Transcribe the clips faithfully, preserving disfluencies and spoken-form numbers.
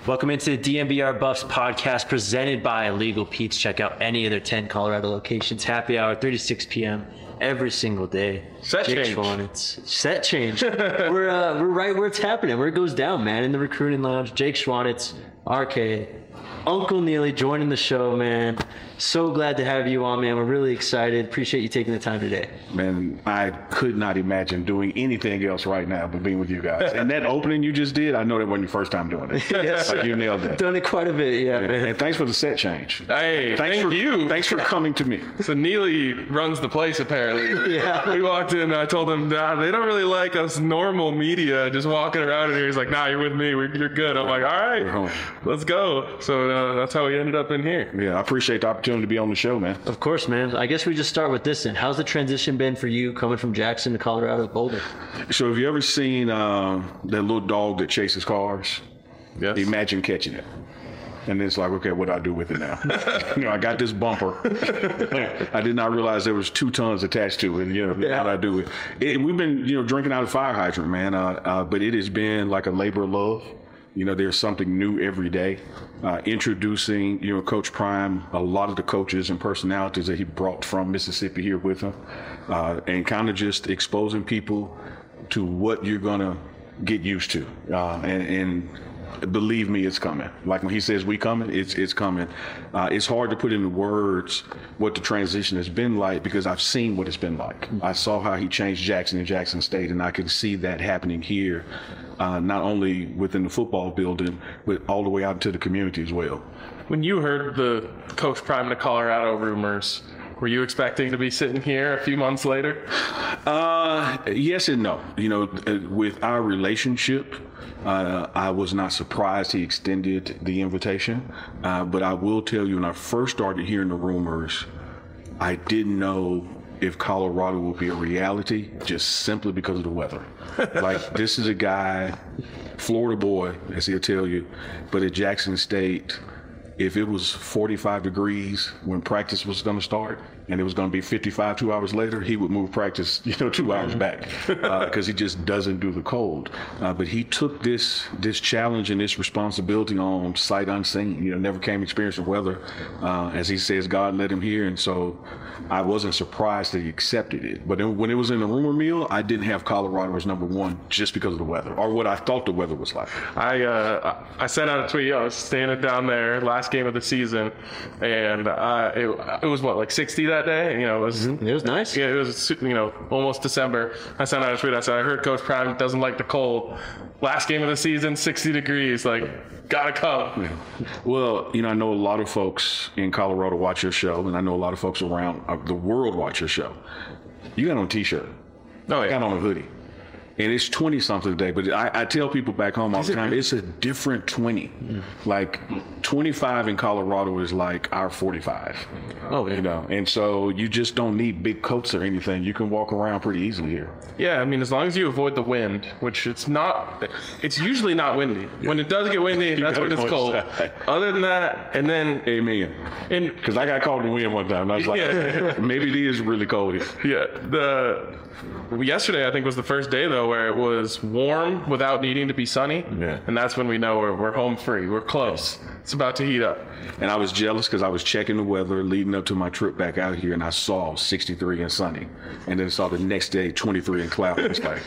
Welcome into the D N V R Buffs podcast presented by Legal Pete's. Check out any of their ten Colorado locations. Happy hour, three to six p.m. every single day. Set Jake change. Schwanitz. Set change. we're uh, we're right where it's happening, where it goes down, man. In the recruiting lounge, Jake Schwanitz, R K, Uncle Neely joining the show, man. So glad to have you on, man. We're really excited. Appreciate you taking the time today. Man, I could not imagine doing anything else right now but being with you guys. And that opening you just did, I know that wasn't your first time doing it. Yes, like you nailed it. Done it quite a bit, yeah, Yeah. man. And thanks for the set change. Hey, thanks thank for, you. Thanks for coming to me. So Neely runs the place, apparently. Yeah. We walked in, and I told him, nah, they don't really like us normal media just walking around in here. He's like, nah, you're with me. We're, you're good. I'm like, all We're right, home. let's go. So uh, that's how we ended up in here. Yeah, I appreciate the opportunity to be on the show, man. Of course, man. I guess we just start with this then. How's the transition been for you coming from Jackson to Colorado to Boulder? So have you ever seen uh, that little dog that chases cars? Yes. Imagine catching it. And it's like, okay, what do I do with it now? you know, I got this bumper. I did not realize there was two tons attached to it. You know, Yeah. what do I do with it? We've been, you know, drinking out of fire hydrant, man. Uh, uh, but it has been like a labor of love. You know, there's something new every day. Uh, introducing, you know, Coach Prime, a lot of the coaches and personalities that he brought from Mississippi here with him, uh, and kind of just exposing people to what you're going to get used to. Uh, and, and believe me, it's coming. Like when he says we coming, it's it's coming. Uh, it's hard to put into words what the transition has been like because I've seen what it's been like. I saw how he changed Jackson and Jackson State, and I can see that happening here, uh, not only within the football building, but all the way out into the community as well. When you heard the Coach Prime to Colorado rumors, were you expecting to be sitting here a few months later? Uh, yes and no. You know, uh, with our relationship, uh, I was not surprised he extended the invitation. Uh, but I will tell you, when I first started hearing the rumors, I didn't know if Colorado would be a reality just simply because of the weather. Like, this is a guy, Florida boy, as he'll tell you, but at Jackson State, if it was forty-five degrees when practice was going to start and it was going to be fifty-five two hours later, he would move practice, you know, two hours back because uh, he just doesn't do the cold. Uh, but he took this this challenge and this responsibility on sight unseen. You know, never came experience of weather. Uh, as he says, God led him here. And so I wasn't surprised that he accepted it. But then when it was in the rumor mill, I didn't have Colorado as number one just because of the weather or what I thought the weather was like. I uh, I sent out a tweet. I was standing down there last game of the season, and uh, it, it was what, like sixty that day. You know, it was It was nice. yeah, it was, you know, almost December. I sent out a tweet. I said, I heard Coach Prime doesn't like the cold. Last game of the season, sixty degrees. Like, gotta come. Yeah. Well, you know, I know a lot of folks in Colorado watch your show, and I know a lot of folks around uh, the world watch your show. You got on a T-shirt. Oh, I yeah. got on a hoodie. And it's twenty something today, but I, I tell people back home all the time, it's a different twenty. Mm. Like twenty-five in Colorado is like our forty-five. Oh, yeah. You know, and so you just don't need big coats or anything. You can walk around pretty easily here. Yeah, I mean, as long as you avoid the wind, which it's not, it's usually not windy. When it does get windy, that's gotta when it's go cold. inside. Other than that, and then, Amen. and Because I got caught in the wind one time. And I was like, Yeah. maybe it is really cold here. yeah, the yesterday I think was the first day though where it was warm without needing to be sunny. Yeah. And that's when we know we're we're home free. We're close. It's about to heat up. And I was jealous because I was checking the weather leading up to my trip back out here, and I saw sixty-three and sunny. And then saw the next day twenty-three and cloudy. It's like,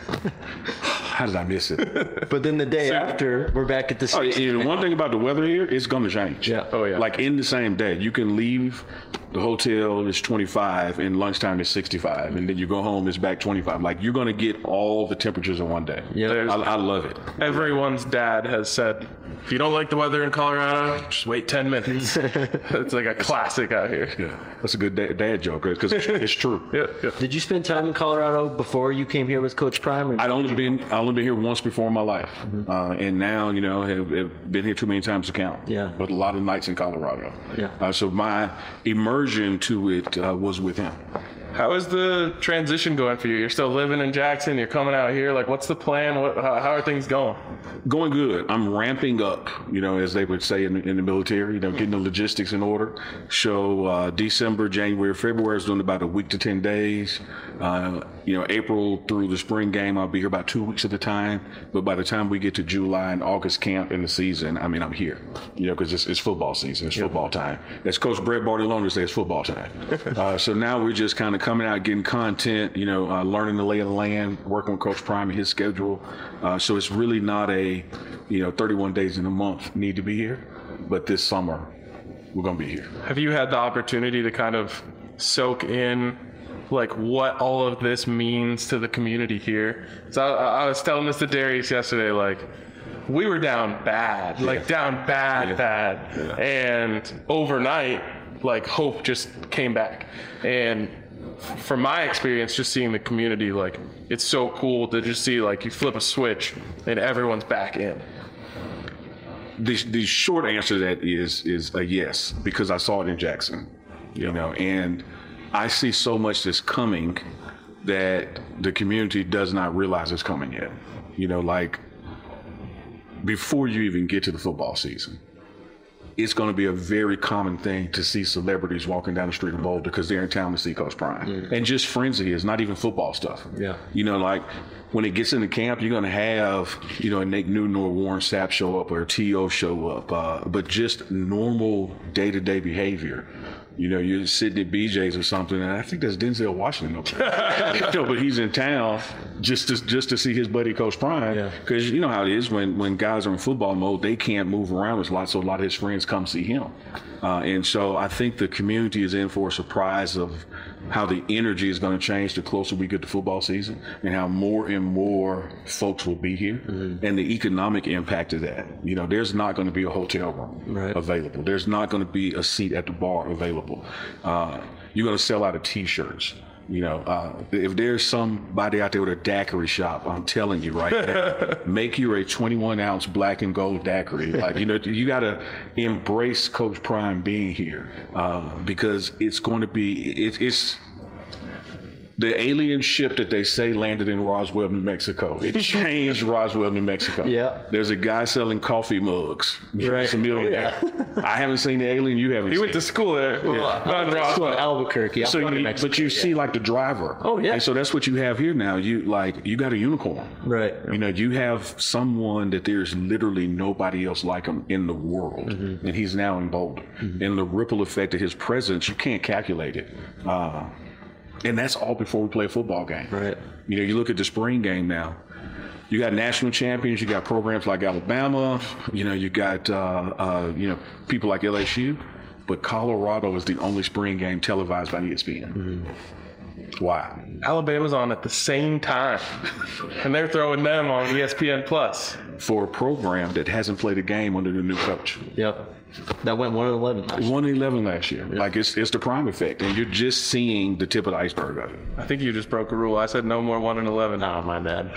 how did I miss it? But then the day So- after, we're back at the Oh, and one thing about the weather here, it's going to change. Yeah. Oh, yeah. Like in the same day, you can leave the hotel, it's twenty-five, and lunchtime is sixty-five, and then you go home, it's back twenty-five. Like, you're going to get all the temperatures in one day. Yeah. I, I love it. Everyone's dad has said, if you don't like the weather in Colorado, just wait ten minutes. It's like a classic out here. Yeah. That's a good dad, dad joke, because it's, it's true. Yeah, yeah. Did you spend time in Colorado before you came here with Coach Prime? Or- I'd only been I only been here once before in my life, Mm-hmm. uh, and now you know have, have been here too many times to count. Yeah. But a lot of nights in Colorado. Yeah. Uh, so my immersion to it uh, was with him. How is the transition going for you? You're still living in Jackson. You're coming out here. Like, what's the plan? What, how, how are things going? Going good. I'm ramping up, you know, as they would say in, in the military, you know, getting the logistics in order. So uh, December, January, February is doing about a week to ten days. Uh, you know, April through the spring game, I'll be here about two weeks at a time. But by the time we get to July and August camp in the season, I mean, I'm here, you know, because it's, it's football season. It's yep. football time. As Coach Brett Bartolone says, it's football time. uh, so now we're just kind of coming out, getting content, you know, uh, learning the lay of the land, working with Coach Prime and his schedule. Uh, so it's really not a, you know, thirty-one days in a month need to be here. But this summer, we're going to be here. Have you had the opportunity to kind of soak in like what all of this means to the community here? So I, I was telling this to Darius yesterday, like we were down bad, like yeah. down bad, yeah. bad. Yeah. And overnight, like hope just came back. And from my experience, just seeing the community, like it's so cool to just see like you flip a switch and everyone's back in. The, the short answer to that is is a yes, because I saw it in Jackson, you yeah. know, and I see so much that's coming that the community does not realize it's coming yet. You know, like before you even get to the football season, it's going to be a very common thing to see celebrities walking down the street in Boulder because they're in town to see Coach Prime. Yeah. And just friends of his, not even football stuff. Yeah. You know, like when it gets into camp, you're going to have, you know, a Nick Newton or Warren Sapp show up or a T O show up, uh, but just normal day-to-day behavior. You know, you're sitting at B J's or something, and I think that's Denzel Washington up there. You know, but he's in town just to just to see his buddy Coach Prime. Because yeah. you know how it is when, when guys are in football mode, they can't move around a lot, so a lot of his friends come see him. Uh, and so I think the community is in for a surprise of how the energy is going to change the closer we get to football season, and how more and more folks will be here, mm-hmm. and the economic impact of that. You know, there's not going to be a hotel room right. available. There's not going to be a seat at the bar available. Uh, you're going to sell out of T-shirts. You know, uh, if there's somebody out there with a daiquiri shop, I'm telling you right now, make you a twenty-one ounce black and gold daiquiri. Like, you know, you got to embrace Coach Prime being here uh, because it's going to be, it, it's, the alien ship that they say landed in Roswell, New Mexico. It changed Roswell, New Mexico. Yeah. There's a guy selling coffee mugs. Right. He's a millionaire. Yeah. I haven't seen the alien. You haven't he seen. He went to school there. Well, yeah. Not in Roswell. Albuquerque. So you, but you yeah. see like the driver. Oh, yeah. And so that's what you have here now. You like, you got a unicorn. Right. You know, you have someone that there's literally nobody else like him in the world. Mm-hmm. And he's now in Boulder. Mm-hmm. And the ripple effect of his presence, you can't calculate it. Uh, And that's all before we play a football game. Right. You know, you look at the spring game now. You got national champions. You got programs like Alabama. You know, you got uh, uh, you know people like L S U. But Colorado is the only spring game televised by E S P N. Mm-hmm. Why? Alabama's on at the same time, and they're throwing them on E S P N Plus for a program that hasn't played a game under the new coach. Yep. That went one and eleven last year. one and eleven last year. Yeah. Like, it's it's the Prime effect, and you're just seeing the tip of the iceberg of it. I think you just broke a rule. I said no more one and eleven. No, my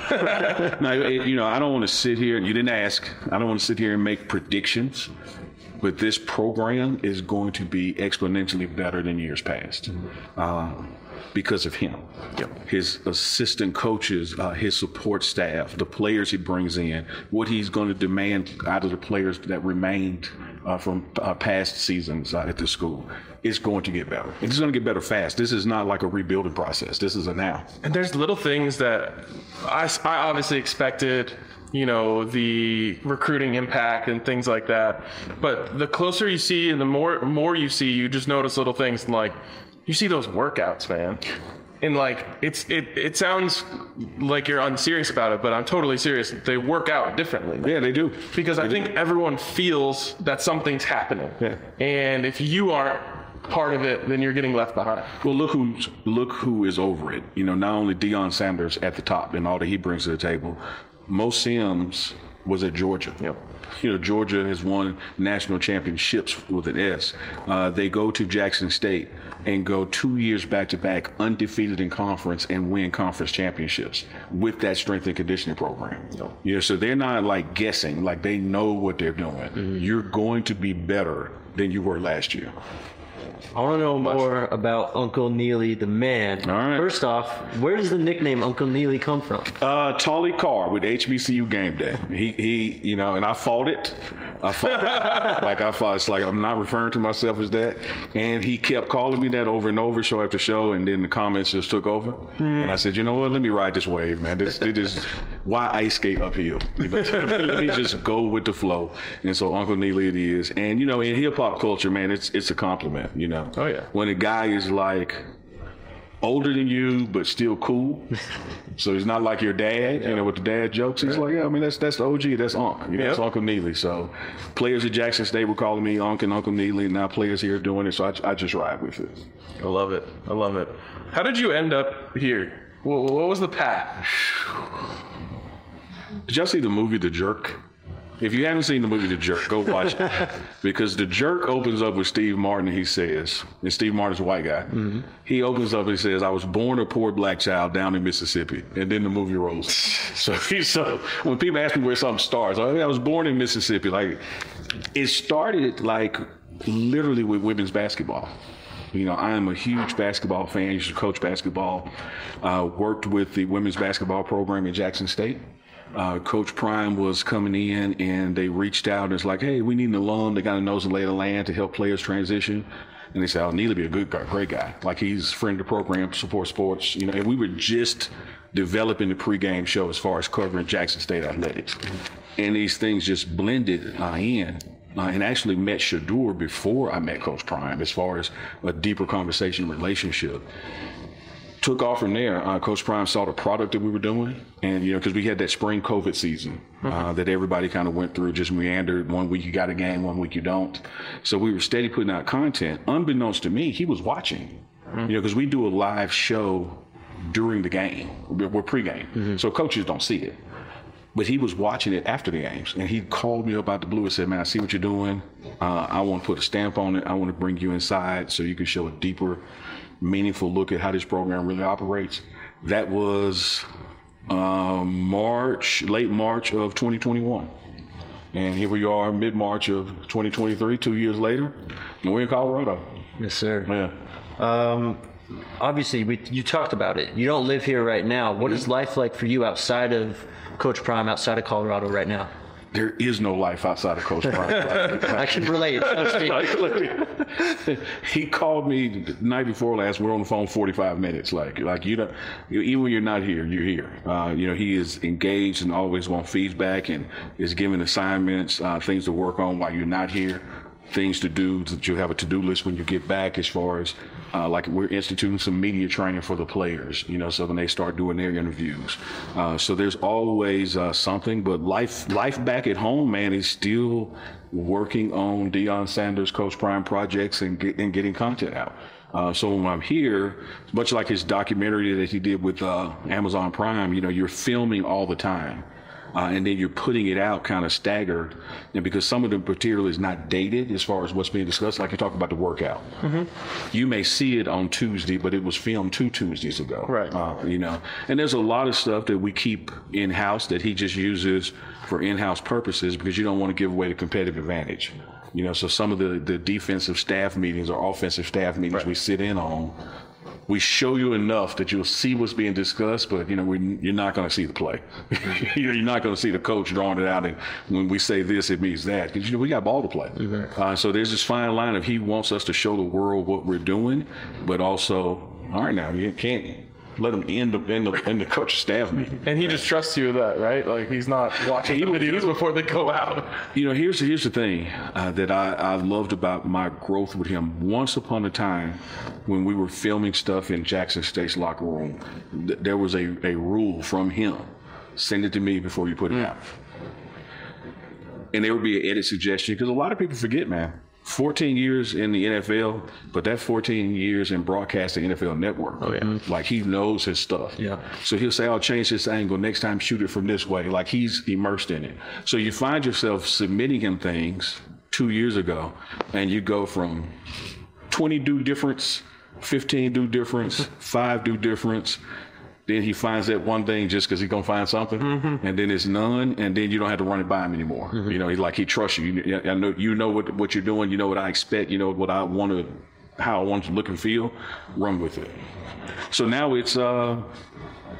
bad. No, it, you know, I don't want to sit here, and you didn't ask, I don't want to sit here and make predictions, but this program is going to be exponentially better than years past. Mm-hmm. Uh, because of him, yep. his assistant coaches, uh, his support staff, the players he brings in, what he's going to demand out of the players that remained uh, from uh, past seasons uh, at the school. It's going to get better. It's going to get better fast. This is not like a rebuilding process. This is a now. And there's little things that I, I obviously expected, you know, the recruiting impact and things like that. But the closer you see and the more more you see, you just notice little things like, you see those workouts, man. And like, it's it it sounds like you're unserious about it, but I'm totally serious. They work out differently. Yeah, they do. Because they I do. think everyone feels that something's happening. Yeah. And if you aren't part of it, then you're getting left behind. Well, look who's look who is over it. You know, not only Deion Sanders at the top and all that he brings to the table, Mo Sims was at Georgia. Yep. You know, Georgia has won national championships with an S. Uh, they go to Jackson State and go two years back-to-back undefeated in conference and win conference championships with that strength and conditioning program. Yep. You know, so they're not like guessing, like they know what they're doing. Mm-hmm. You're going to be better than you were last year. I want to know more about Uncle Neely, the man. All right. First off, where does the nickname Uncle Neely come from? Uh, Tolly Carr with H B C U Game Day. He, he, you know, and I fought it. I thought, like I thought, it's like I'm not referring to myself as that. And he kept calling me that over and over, show after show, and then the comments just took over. Mm. And I said, you know what? Let me ride this wave, man. This, this is why ice skate uphill. You know, let me just go with the flow. And so Uncle Neely it is. And you know, in hip hop culture, man, it's it's a compliment. You know, oh yeah, when a guy is like older than you but still cool, so he's not like your dad, you know, with the dad jokes. He's like, yeah, I mean, that's that's the O G, that's Unc, you know, yep. That's Uncle Neely. So players at Jackson State were calling me Unc and Uncle Neely, and now players here doing it. So I, I just ride with it. I love it. I love it. How did you end up here? What, what was the path? Did y'all see the movie The Jerk? If you haven't seen the movie The Jerk, go watch it. Because The Jerk opens up with Steve Martin, and he says, and Steve Martin's a white guy. Mm-hmm. He opens up and he says, I was born a poor black child down in Mississippi. And then the movie rolls. So, so when people ask me where something starts, I was born in Mississippi. Like, it started like literally with women's basketball. You know, I am a huge basketball fan. I used to coach basketball. Uh, worked with the women's basketball program at Jackson State. Uh, Coach Prime was coming in, and they reached out and it's like, hey, we need an alum that got a nose and lay of the land to help players transition. And they said, oh, Neely be a good guy, great guy. Like, he's a friend of the program, support sports. You know, and we were just developing the pregame show as far as covering Jackson State athletics. And these things just blended uh, in. Uh, and actually met Shedeur before I met Coach Prime as far as a deeper conversation relationship. Took off from there. Uh, Coach Prime saw the product that we were doing, and you know, because we had that spring COVID season uh, mm-hmm. that everybody kind of went through, just meandered. One week you got a game, one week you don't. So we were steady putting out content. Unbeknownst to me, he was watching. Mm-hmm. You know, because we do a live show during the game. We're, we're pregame, mm-hmm. so coaches don't see it. But he was watching it after the games, and he called me up out the blue and said, man, I see what you're doing. Uh, I want to put a stamp on it. I want to bring you inside so you can show a deeper, meaningful look at how this program really operates. That was um, March, late March of twenty twenty-one. And here we are, mid-March of twenty twenty-three, two years later, and we're in Colorado. Yes, sir. Yeah. Um, obviously, we, you talked about it. You don't live here right now. What is life like for you outside of Coach Prime, outside of Colorado right now? There is no life outside of Coach Prime. I can relate. He called me the night before last. We're on the phone forty-five minutes. Like, like you know, even when you're not here, you're here. Uh, you know, he is engaged and always wants feedback and is giving assignments, uh, things to work on while you're not here, things to do that you have a to-do list when you get back. As far as uh, like we're instituting some media training for the players, you know, so when they start doing their interviews. Uh, so there's always uh, something, but life life back at home, man, is still working on Deion Sanders, Coach Prime projects and, get, and getting content out. Uh, so when I'm here, much like his documentary that he did with uh, Amazon Prime, you know, you're filming all the time. Uh, and then you're putting it out kind of staggered. And because some of the material is not dated as far as what's being discussed, like you talk about the workout. Mm-hmm. You may see it on Tuesday, but it was filmed two Tuesdays ago. Right. Uh, you know, and there's a lot of stuff that we keep in-house that he just uses for in-house purposes because you don't want to give away the competitive advantage. You know, so some of the, the defensive staff meetings or offensive staff meetings right. we sit in on, we show you enough that you'll see what's being discussed, but you know we, you're not going to see the play. You're not going to see the coach drawing it out, and when we say this, it means that because you know we got ball to play. Mm-hmm. Uh, so there's this fine line of he wants us to show the world what we're doing, but also, all right, now you can't let him end up in the in the coach staff meeting. And he just trusts you with that, right? Like he's not watching the videos before they go out. You know, here's here's the thing uh, that I, I loved about my growth with him. Once upon a time, when we were filming stuff in Jackson State's locker room, th- there was a, a rule from him: send it to me before you put it mm. out. And there would be an edit suggestion because a lot of people forget, man. fourteen years in the N F L, but that fourteen years in broadcasting N F L Network. Oh, yeah. Like he knows his stuff. Yeah. So he'll say, I'll change this angle. Next time, shoot it from this way. Like he's immersed in it. So you find yourself submitting him things two years ago, and you go from twenty do difference, fifteen do difference, five do difference. Then he finds that one thing just because he's going to find something, mm-hmm. and then it's none, and then you don't have to run it by him anymore. Mm-hmm. You know, he's like, he trusts you. you. I know you know what what you're doing. You know what I expect. You know what I want to, how I want to look and feel. Run with it. So now it's, uh,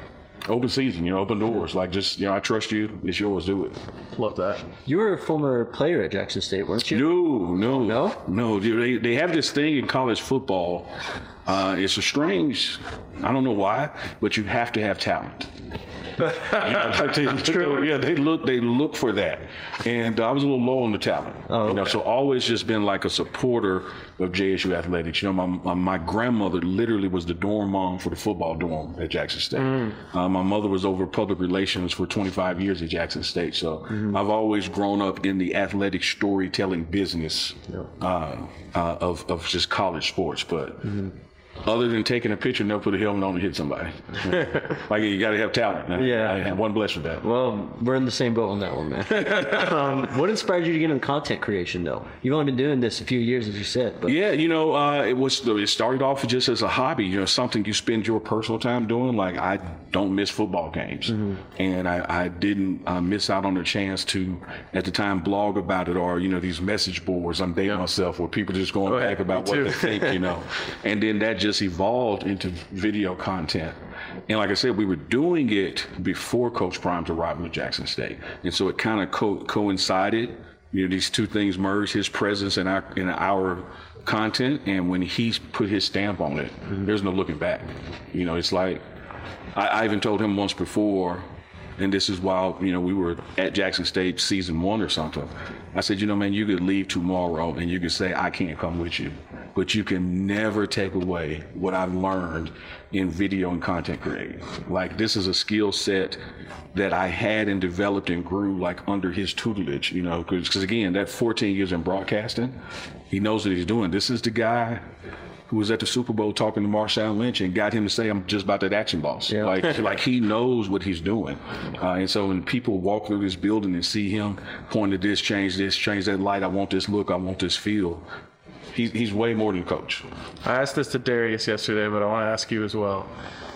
open season, you know, open doors. Like, just, you know, I trust you. It's yours. Do it. Love that. You were a former player at Jackson State, weren't you? No, no, No? no. Dude, They they have this thing in college football. Uh, it's a strange. I don't know why, but you have to have talent. You know, they, True. Yeah, they look they look for that, and I was a little low on the talent. Oh, you know, okay. so always just been like a supporter of J S U athletics. You know, my my, my grandmother literally was the dorm mom for the football dorm at Jackson State. Mm. Uh, my mother was over public relations for twenty-five years at Jackson State. So mm-hmm. I've always grown up in the athletic storytelling business yeah. uh, uh, of of just college sports, but. Mm-hmm. Other than taking a picture and they'll put a helmet on and hit somebody. Like, you got to have talent. Man. Yeah. I have one blessed with that. Well, we're in the same boat on that one, man. um, what inspired you to get into content creation, though? You've only been doing this a few years, as you said. But. Yeah, you know, uh, it was. It started off just as a hobby, you know, something you spend your personal time doing. Like, I don't miss football games. Mm-hmm. And I, I didn't uh, miss out on the chance to, at the time, blog about it, or, you know, these message boards. I'm dating yeah. myself where people just going back about what they think, you know. And then that just evolved into video content. And like I said, we were doing it before Coach Prime's arrival at Jackson State. And so it kind of co- coincided, you know, these two things merged, his presence and our, in our content. And when he's put his stamp on it, mm-hmm. there's no looking back. You know, it's like, I, I even told him once before, and this is while, you know, we were at Jackson State season one or something. I said, you know, man, you could leave tomorrow and you could say, I can't come with you. But you can never take away what I've learned in video and content creating. Like, this is a skill set that I had and developed and grew, like, under his tutelage, you know, because, again, that fourteen years in broadcasting, he knows what he's doing. This is the guy who was at the Super Bowl talking to Marshawn Lynch and got him to say, I'm just about that action boss. Yeah. Like, like he knows what he's doing. Uh, and so when people walk through this building and see him point to this, change this, change that light, I want this look, I want this feel, he's, he's way more than a coach. I asked this to Darius yesterday, but I want to ask you as well.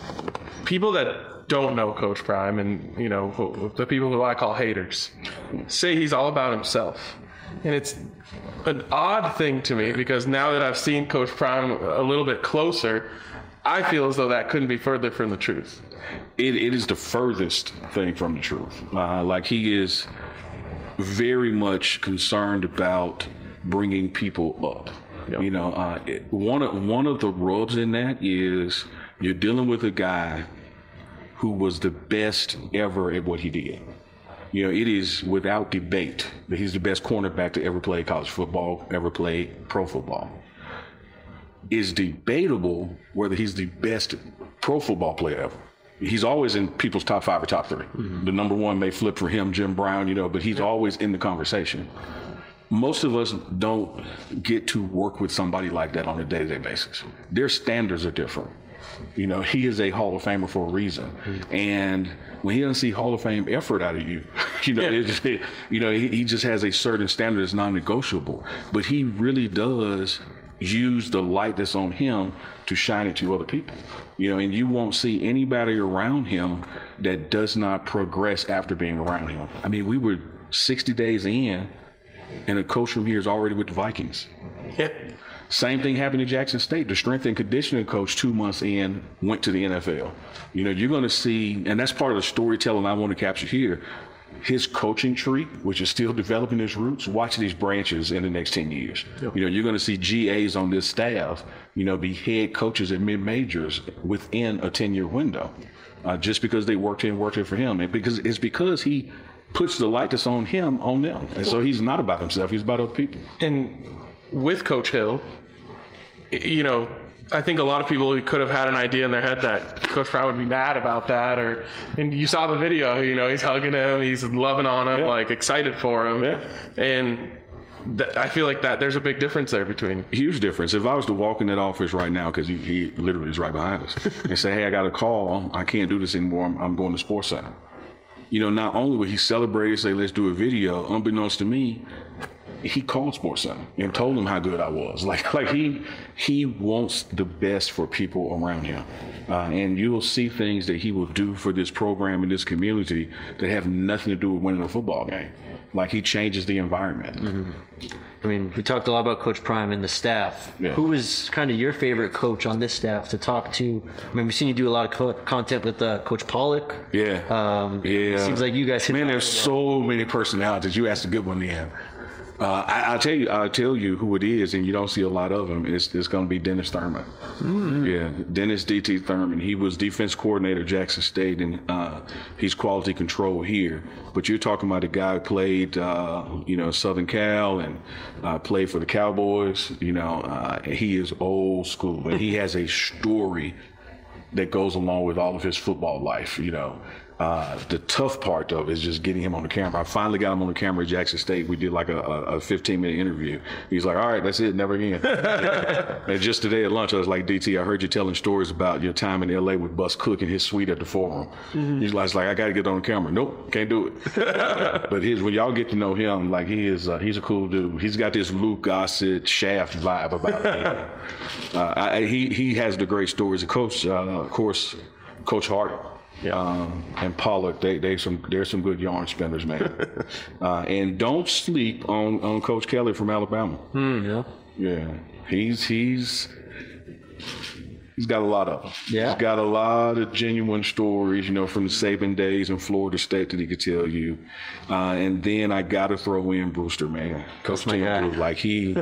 People that don't know Coach Prime, and, you know, the people who I call haters, say he's all about himself. And it's an odd thing to me, because now that I've seen Coach Prime a little bit closer, I feel as though that couldn't be further from the truth. It, it is the furthest thing from the truth. Uh, like, he is very much concerned about bringing people up. Yep. You know, uh, it, one of one of the rubs in that is you're dealing with a guy who was the best ever at what he did. You know, it is without debate that he's the best cornerback to ever play college football, ever play pro football. It's debatable whether he's the best pro football player ever. He's always in people's top five or top three. Mm-hmm. The number one may flip for him, Jim Brown, you know, but he's always in the conversation. Most of us don't get to work with somebody like that on a day-to-day basis. Their standards are different. You know, he is a Hall of Famer for a reason. Mm-hmm. And when he doesn't see Hall of Fame effort out of you, you know, yeah. it just, it, you know, he, he just has a certain standard that's non-negotiable. But he really does use the light that's on him to shine it to other people. You know, and you won't see anybody around him that does not progress after being around him. I mean, we were sixty days in, and a coach from here is already with the Vikings. Yeah. Same thing happened at Jackson State. The strength and conditioning coach two months in went to the N F L. You know, you're going to see, and that's part of the storytelling I want to capture here, his coaching tree, which is still developing its roots, watch these branches in the next ten years. Yep. You know, you're going to see G As on this staff, you know, be head coaches at mid-majors within a ten-year window, uh, just because they worked in, worked in for him. And because it's because he puts the light that's on him on them. And so he's not about himself, he's about other people. And with Coach Hill, you know, I think a lot of people could have had an idea in their head that Coach Prime would be mad about that, or, and you saw the video, you know, he's hugging him, he's loving on him, yeah. like excited for him. Yeah. And th- I feel like that there's a big difference there between. Huge difference. If I was to walk in that office right now, because he, he literally is right behind us, and say, hey, I got a call, I can't do this anymore, I'm, I'm going to Sports Center. You know, not only would he celebrate and say, let's do a video, unbeknownst to me, he called Sports Center and told them how good I was. Like, like he he wants the best for people around him. Uh, and you will see things that he will do for this program and this community that have nothing to do with winning a football game. Like, he changes the environment. Mm-hmm. I mean, we talked a lot about Coach Prime and the staff. Yeah. Who was kind of your favorite coach on this staff to talk to? I mean, we've seen you do a lot of co- content with uh, Coach Pollock. Yeah. Um, Yeah. It seems like you guys hit Man, it there's off. so many personalities. You asked a good one, Ian. Uh, I, I'll tell you, I'll tell you who it is, and you don't see a lot of them. It's, it's going to be Dennis Thurman. Mm-hmm. Yeah, Dennis D T Thurman. He was defense coordinator at Jackson State, and uh, he's quality control here. But you're talking about a guy who played, uh, you know, Southern Cal and uh, played for the Cowboys. You know, uh, he is old school, and he has a story that goes along with all of his football life, you know. Uh, the tough part, though, is just getting him on the camera. I finally got him on the camera at Jackson State. We did like a, a fifteen-minute interview. He's like, all right, that's it, never again. And just today at lunch, I was like, D T, I heard you telling stories about your time in L A with Bus Cook and his suite at the Forum. Mm-hmm. He's like, I got to get on the camera. Nope, can't do it. But his, when y'all get to know him, like he is, uh, he's a cool dude. He's got this Luke Gossett, Shaft vibe about him. uh, I, he, he has the great stories. The coach, uh, of course, Coach Hart. Yeah. Um, and Pollock, they they some they're some good yarn spinners, man. uh, and don't sleep on, on Coach Kelly from Alabama. Mm, yeah. Yeah, he's he's he's got a lot of them. Yeah. He's got a lot of genuine stories, you know, from the Saban days in Florida State that he could tell you. Uh, and then I got to throw in Brewster, man. Coach my guy. Tim Brew, like he,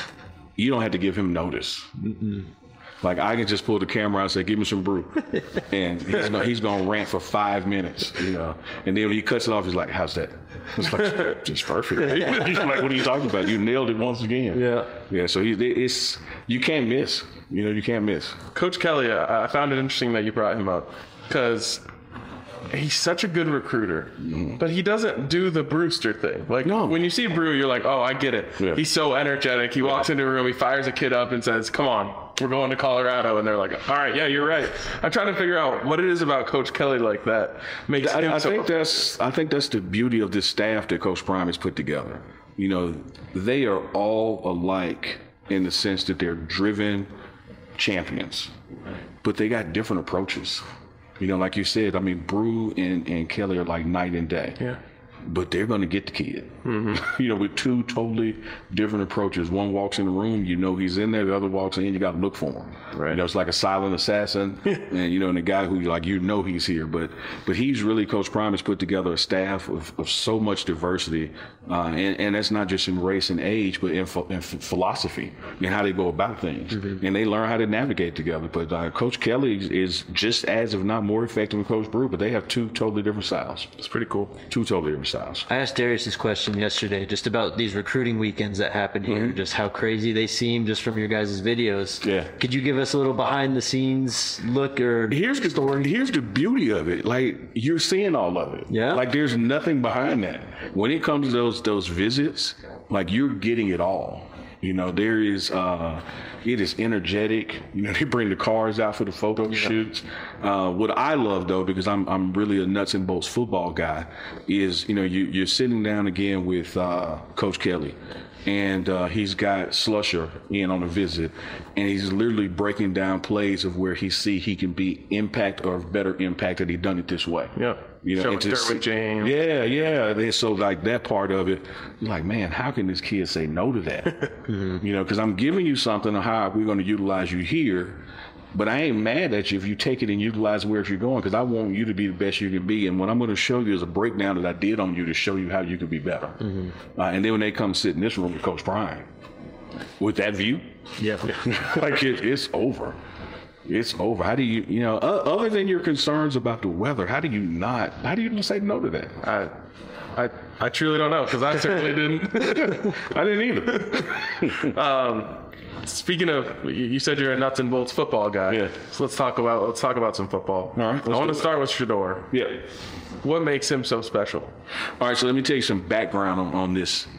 you don't have to give him notice. Mm-mm. Like, I can just pull the camera out and say, give me some brew. And he's, no, he's going to rant for five minutes, you know. And then when he cuts it off, he's like, how's that? It's like, just perfect. He's like, what are you talking about? You nailed it once again. Yeah. Yeah, so he, it's, you can't miss. You know, you can't miss. Coach Kelly, I I found it interesting that you brought him up because he's such a good recruiter, mm-hmm. but he doesn't do the Brewster thing. Like, No. when you see Brew, you're like, oh, I get it. Yeah. He's so energetic. He walks into a room, he fires a kid up and says, come on, we're going to Colorado. And they're like, all right, yeah, you're right. I'm trying to figure out what it is about Coach Kelly like that makes I, him I so... think that's I think that's the beauty of this staff that Coach Prime has put together. You know, they are all alike in the sense that they're driven champions, but they got different approaches. You know, like you said, I mean, Brew and, and Kelly are like night and day. Yeah. But they're going to get the kid. Mm-hmm. You know, with two totally different approaches. One walks in the room, you know he's in there. The other walks in, you got to look for him. Right. You know, it's like a silent assassin. And, you know, and the guy who, like, you know he's here. But but he's really, Coach Prime has put together a staff of, of so much diversity. Uh, and, and that's not just in race and age, but in, ph- in ph- philosophy and how they go about things. Mm-hmm. And they learn how to navigate together. But uh, Coach Kelly is just as, if not more effective than Coach Brew, but they have two totally different styles. It's pretty cool. Two totally different styles. I asked Darius this question yesterday just about these recruiting weekends that happen here, Mm-hmm. just how crazy they seem just from your guys' videos. Yeah. Could you give us a little behind the scenes look or Here's the story. Here's the beauty of it. Like, you're seeing all of it. Yeah. Like, there's nothing behind that. When it comes to those those visits, like, you're getting it all. You know, there is, uh, it is energetic. You know, they bring the cars out for the photo shoots. Uh, what I love, though, because I'm I'm really a nuts and bolts football guy, is, you know, you, you're sitting down again with uh, Coach Kelly. And uh, he's got Slusher in on a visit, and he's literally breaking down plays of where he see he can be impact or better impact had he done it this way. Yeah. You know, Showing and to Derwin see- James. Yeah, yeah. And so like that part of it, you're like, man, how can this kid say no to that? mm-hmm. You know, because I'm giving you something on how we're going to utilize you here. But I ain't mad at you if you take it and utilize where you're going, because I want you to be the best you can be. And what I'm going to show you is a breakdown that I did on you to show you how you can be better. Mm-hmm. Uh, and then when they come sit in this room with Coach Prime, with that view, yeah, like it, it's over. It's over. How do you, you know, uh, other than your concerns about the weather, how do you not, how do you even say no to that? I, I, I truly don't know, because I certainly didn't. I didn't either. um, Speaking of, you you said you're a nuts and bolts football guy. Yeah. So let's talk about let's talk about some football. All right, I want do to it. start with Shedeur. Yeah. What makes him so special? All right, so let me tell you some background on, on this.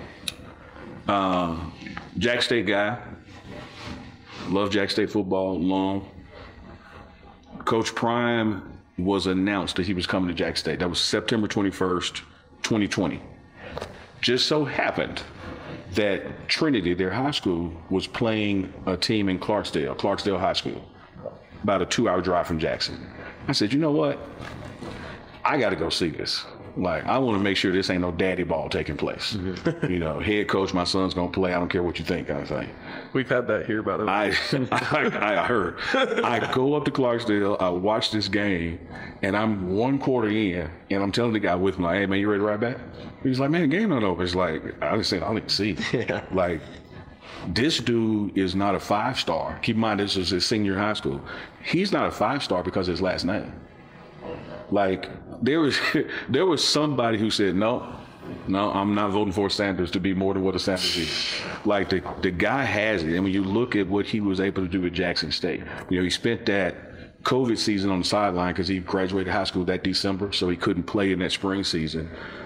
Uh, Jack State guy. Love Jack State football long. Coach Prime was announced that he was coming to Jack State. That was September twenty-first, twenty twenty. Just so happened that Trinity, their high school, was playing a team in Clarksdale, Clarksdale High School, about a two-hour drive from Jackson. I said, you know what? I got to go see this. Like, I want to make sure this ain't no daddy ball taking place. Mm-hmm. You know, head coach, my son's going to play. I don't care what you think, kind of thing. We've had that here about it. I, I, I heard. I go up to Clarksdale, I watch this game, and I'm one quarter in, and I'm telling the guy with me, like, hey, man, you ready to ride back? He's like, man, the game not over. It's like, I just said, I don't see. Yeah. Like, this dude is not a five-star. Keep in mind, this is his senior high school. He's not a five-star because of his last name. Like, there was there was somebody who said, no, no, I'm not voting for Sanders to be more than what a Sanders is. Like, the, the guy has it. And when you look at what he was able to do at Jackson State, you know, he spent that COVID season on the sideline because he graduated high school that December, so he couldn't play in that spring season.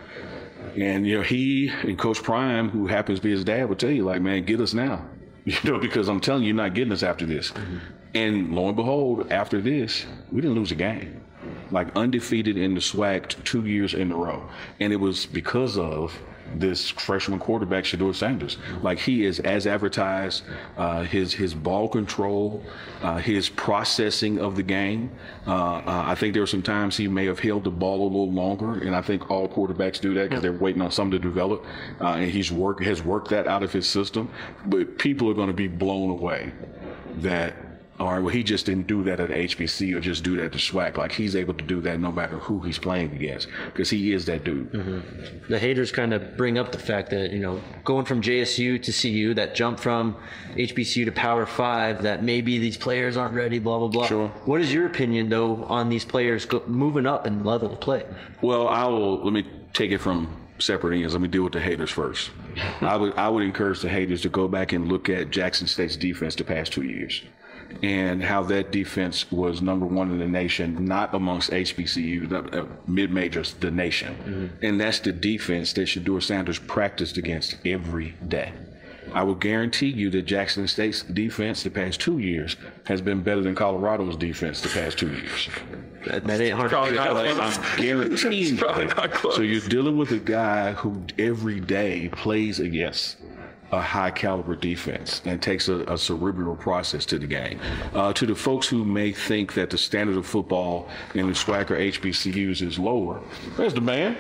And, you know, he and Coach Prime, who happens to be his dad, would tell you, like, man, get us now. You know, because I'm telling you, you're not getting us after this. Mm-hmm. And lo and behold, after this, we didn't lose a game. Like, undefeated in the SWAC two years in a row. And it was because of this freshman quarterback, Shedeur Sanders. Like, he is as advertised, uh, his his ball control, uh, his processing of the game. Uh, uh, I think there were some times he may have held the ball a little longer, and I think all quarterbacks do that because they're waiting on something to develop. Uh, and he's work has worked that out of his system. But people are going to be blown away that, all right, well, he just didn't do that at H B C or just do that at the SWAC. Like, he's able to do that no matter who he's playing against because he is that dude. Mm-hmm. The haters kind of bring up the fact that, you know, going from J S U to C U, that jump from H B C U to Power Five, that maybe these players aren't ready, blah, blah, blah. Sure. What is your opinion, though, on these players go, moving up in level of play? Well, I will, let me take it from separate ends. Let me deal with the haters first. I would I would encourage the haters to go back and look at Jackson State's defense the past two years. And how that defense was number one in the nation, not amongst H B C U, uh, mid-majors, the nation. Mm-hmm. And that's the defense that Shedeur Sanders practiced against every day. I will guarantee you that Jackson State's defense the past two years has been better than Colorado's defense the past two years. That, that ain't hard probably to not do. I'm guaranteeing probably not close. So you're dealing with a guy who every day plays against a high caliber defense and takes a, a cerebral process to the game. Uh, to the folks who may think that the standard of football in the SWAC or H B C Us is lower, there's the man.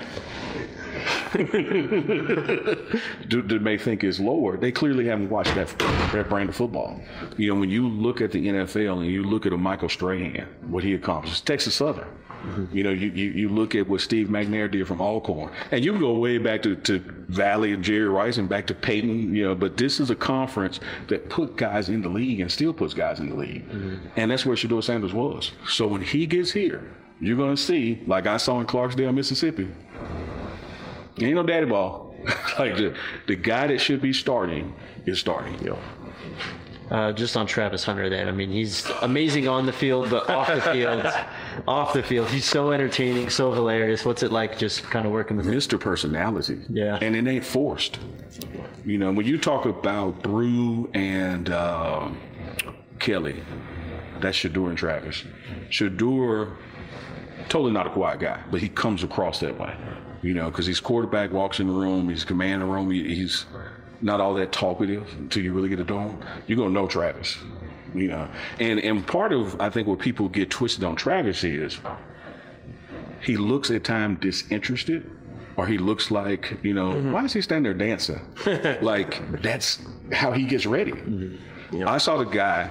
That may think is lower. They clearly haven't watched that, that brand of football. You know, when you look at the N F L and you look at a Michael Strahan, what he accomplished, Texas Southern. Mm-hmm. You know, you, you, you look at what Steve McNair did from Alcorn, and you can go way back to, to Valley and Jerry Rice and back to Peyton, you know, but this is a conference that put guys in the league and still puts guys in the league. Mm-hmm. And that's where Shedeur Sanders was. So when he gets here, you're going to see, like I saw in Clarksdale, Mississippi, ain't no daddy ball. Like the, the guy that should be starting is starting. Yeah. Uh, just on Travis Hunter then, I mean, he's amazing on the field, but off the field, off the field, he's so entertaining, so hilarious. What's it like just kind of working with him? Mister Personality. Yeah. And it ain't forced. You know, when you talk about Brew and uh, Kelly, that's Shedeur and Travis. Shedeur, totally not a quiet guy, but he comes across that way. You know, because he's quarterback, walks in the room, he's commanding the room, he, he's not all that talkative until you really get to know him. You're going to know Travis, you know. And and part of, I think, what people get twisted on Travis is he looks at times disinterested, or he looks like, you know, mm-hmm. why is he standing there dancing? Like, that's how he gets ready. Mm-hmm. Yep. I saw the guy,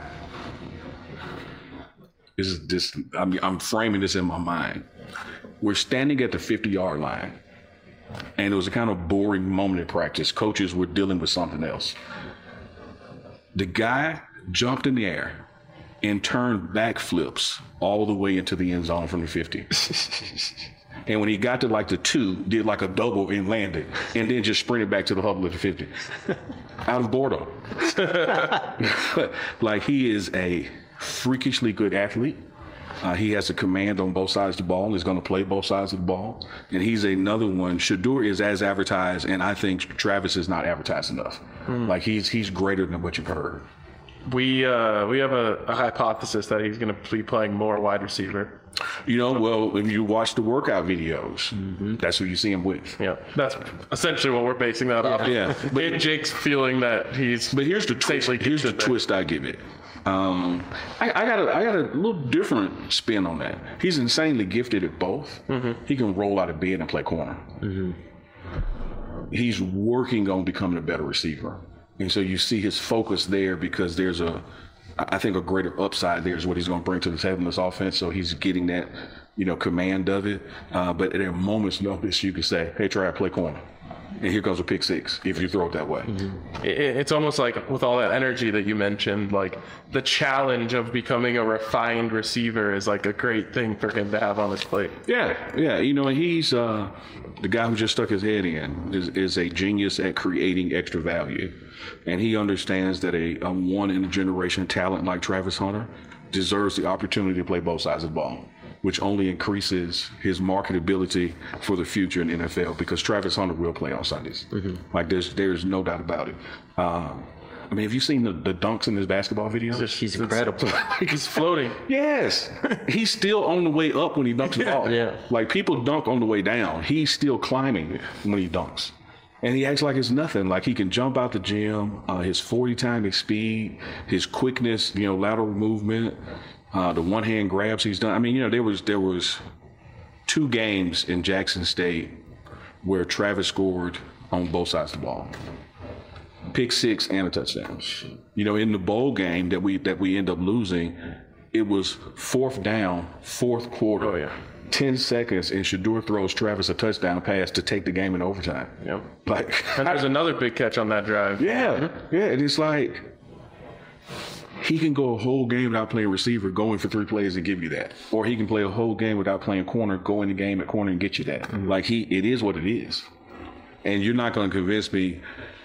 this is this, I mean, I'm framing this in my mind. We're standing at the fifty-yard line. And it was a kind of boring moment in practice. Coaches were dealing with something else. The guy jumped in the air and turned back flips all the way into the end zone from the fifty. And when he got to like the two, did like a double and landed, and then just sprinted back to the huddle at the fifty. Out of boredom. Like, he is a freakishly good athlete. Uh, he has a command on both sides of the ball. He's going to play both sides of the ball. And he's another one. Shedeur is as advertised, and I think Travis is not advertised enough. Mm. Like, he's he's greater than what you've heard. We uh, we have a, a hypothesis that he's going to be playing more wide receiver You know, well, if you watch the workout videos, mm-hmm. that's who you see him with. Yeah, that's essentially what we're basing that off. Yeah, but and Jake's feeling that he's. But here's the twist. Here's the twist I give it. Um, I, I got a I got a little different spin on that. He's insanely gifted at both. Mm-hmm. He can roll out of bed and play corner. Mm-hmm. He's working on becoming a better receiver, and so you see his focus there because there's a. I think a greater upside there is what he's going to bring to the table in this offense. So he's getting that, you know, command of it. Uh, but at a moment's notice, you can say, hey, try to play corner. And here comes a pick six if you throw it that way. Mm-hmm. It, it's almost like with all that energy that you mentioned, like the challenge of becoming a refined receiver is like a great thing for him to have on his plate. Yeah, yeah. You know, he's uh, the guy who just stuck his head in is, is a genius at creating extra value. And he understands that a, a one-in-a-generation talent like Travis Hunter deserves the opportunity to play both sides of the ball, which only increases his marketability for the future in the N F L because Travis Hunter will play on Sundays. Mm-hmm. Like, there's there's no doubt about it. Um, I mean, have you seen the, the dunks in this basketball video? He's incredible. He's floating. Yes. He's still on the way up when he dunks the ball. Yeah. Like, people dunk on the way down. He's still climbing when he dunks. And he acts like it's nothing. Like, he can jump out the gym, uh, his forty time his speed, his quickness, you know, lateral movement, uh, the one hand grabs he's done. I mean, you know, there was there was two games in Jackson State where Travis scored on both sides of the ball. Pick six and a touchdown. You know, in the bowl game that we that we end up losing, it was fourth down, fourth quarter. Oh, yeah. ten seconds, and Shedeur throws Travis a touchdown pass to take the game in overtime. Yep. Like, and there's another big catch on that drive. Yeah, yeah. And it's like he can go a whole game without playing receiver, going for three plays and give you that, or he can play a whole game without playing corner, go in the game at corner and get you that. Mm-hmm. Like, he, it is what it is, and you're not going to convince me.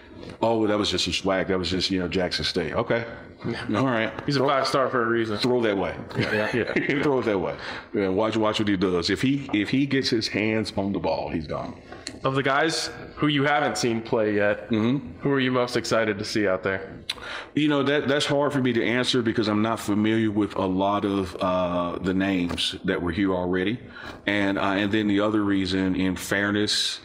Oh, that was just a swag. That was just, you know, Jackson State. Okay. All right. He's a five star for a reason. Throw that way. Yeah. yeah. Throw it that way. Yeah, watch watch what he does. If he if he gets his hands on the ball, he's gone. Of the guys who you haven't seen play yet, mm-hmm. who are you most excited to see out there? You know, that that's hard for me to answer because I'm not familiar with a lot of uh, the names that were here already. And uh, and then the other reason, in fairness,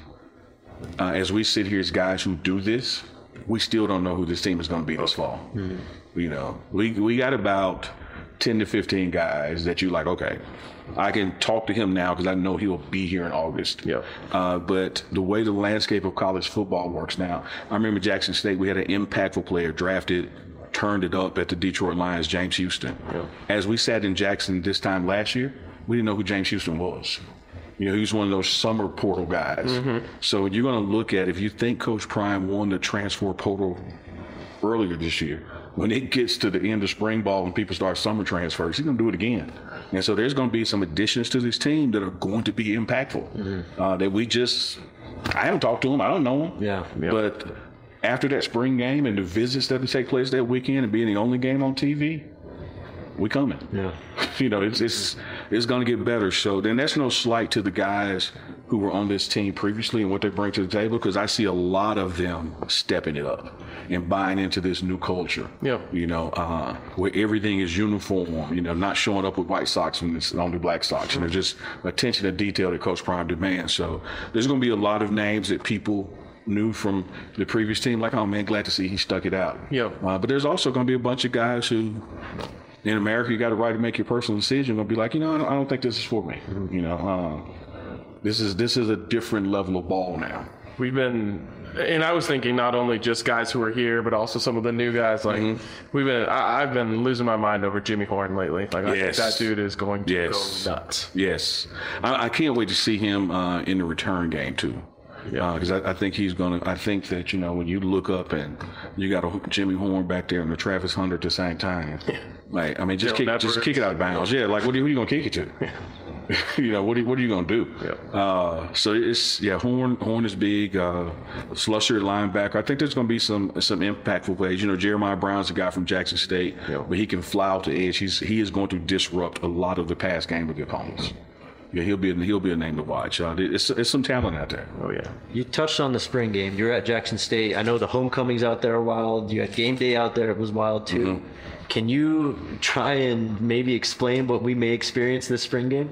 uh, as we sit here as guys who do this, we still don't know who this team is going to be this fall. Mm-hmm. You know, we we got about ten to fifteen guys that you like, okay, I can talk to him now because I know he'll be here in August. Yeah. Uh, but the way the landscape of college football works now, I remember Jackson State, we had an impactful player drafted, turned it up at the Detroit Lions, James Houston. Yeah. As we sat in Jackson this time last year, we didn't know who James Houston was. You know, he was one of those summer portal guys. Mm-hmm. So you're going to look at, if you think Coach Prime won the transfer portal earlier this year, when it gets to the end of spring ball, when people start summer transfers, he's going to do it again. And so there's going to be some additions to this team that are going to be impactful. Mm-hmm. Uh, that we just, I haven't talked to him. I don't know him. Yeah. Yep. But after that spring game and the visits that will take place that weekend and being the only game on T V, we coming. Yeah. You know, it's it's it's going to get better. So then that's no slight to the guys who were on this team previously and what they bring to the table, because I see a lot of them stepping it up and buying into this new culture. Yeah. You know, uh, where everything is uniform, you know, not showing up with white socks when it's only black socks. And there's just attention to detail that Coach Prime demands. So there's going to be a lot of names that people knew from the previous team, like, oh, man, glad to see he stuck it out. Yeah. Uh, but there's also going to be a bunch of guys who, in America, you got a right to make your personal decision. Gonna be like, you know, I don't, I don't think this is for me. Mm-hmm. You know, uh, this is this is a different level of ball now. We've been, and I was thinking not only just guys who are here, but also some of the new guys. Like mm-hmm. we've been, I, I've been losing my mind over Jimmy Horn lately. Like I yes. think that dude is going to yes. go nuts. Yes, I, I can't wait to see him uh, in the return game too. Yeah, because uh, I, I think he's gonna. I think that, you know, when you look up and you got a Jimmy Horn back there and the Travis Hunter at the same time, yeah. like I mean, just kick, just kick it out of bounds. Yeah, like what are you, what are you gonna kick it to? Yeah. You know, what are, what are you gonna do? Yeah. Uh, so it's yeah, Horn Horn is big. Uh, Slusher linebacker. I think there's gonna be some some impactful plays. You know, Jeremiah Brown's a guy from Jackson State, yeah. but he can fly out the edge. He's he is going to disrupt a lot of the pass game of the opponents. yeah, he'll be a, he'll be a name to watch. Uh, it's it's some talent out there. Oh yeah. You touched on the spring game. You're at Jackson State. I know the homecomings out there are wild. You had game day out there. It was wild too. Mm-hmm. Can you try and maybe explain what we may experience this spring game?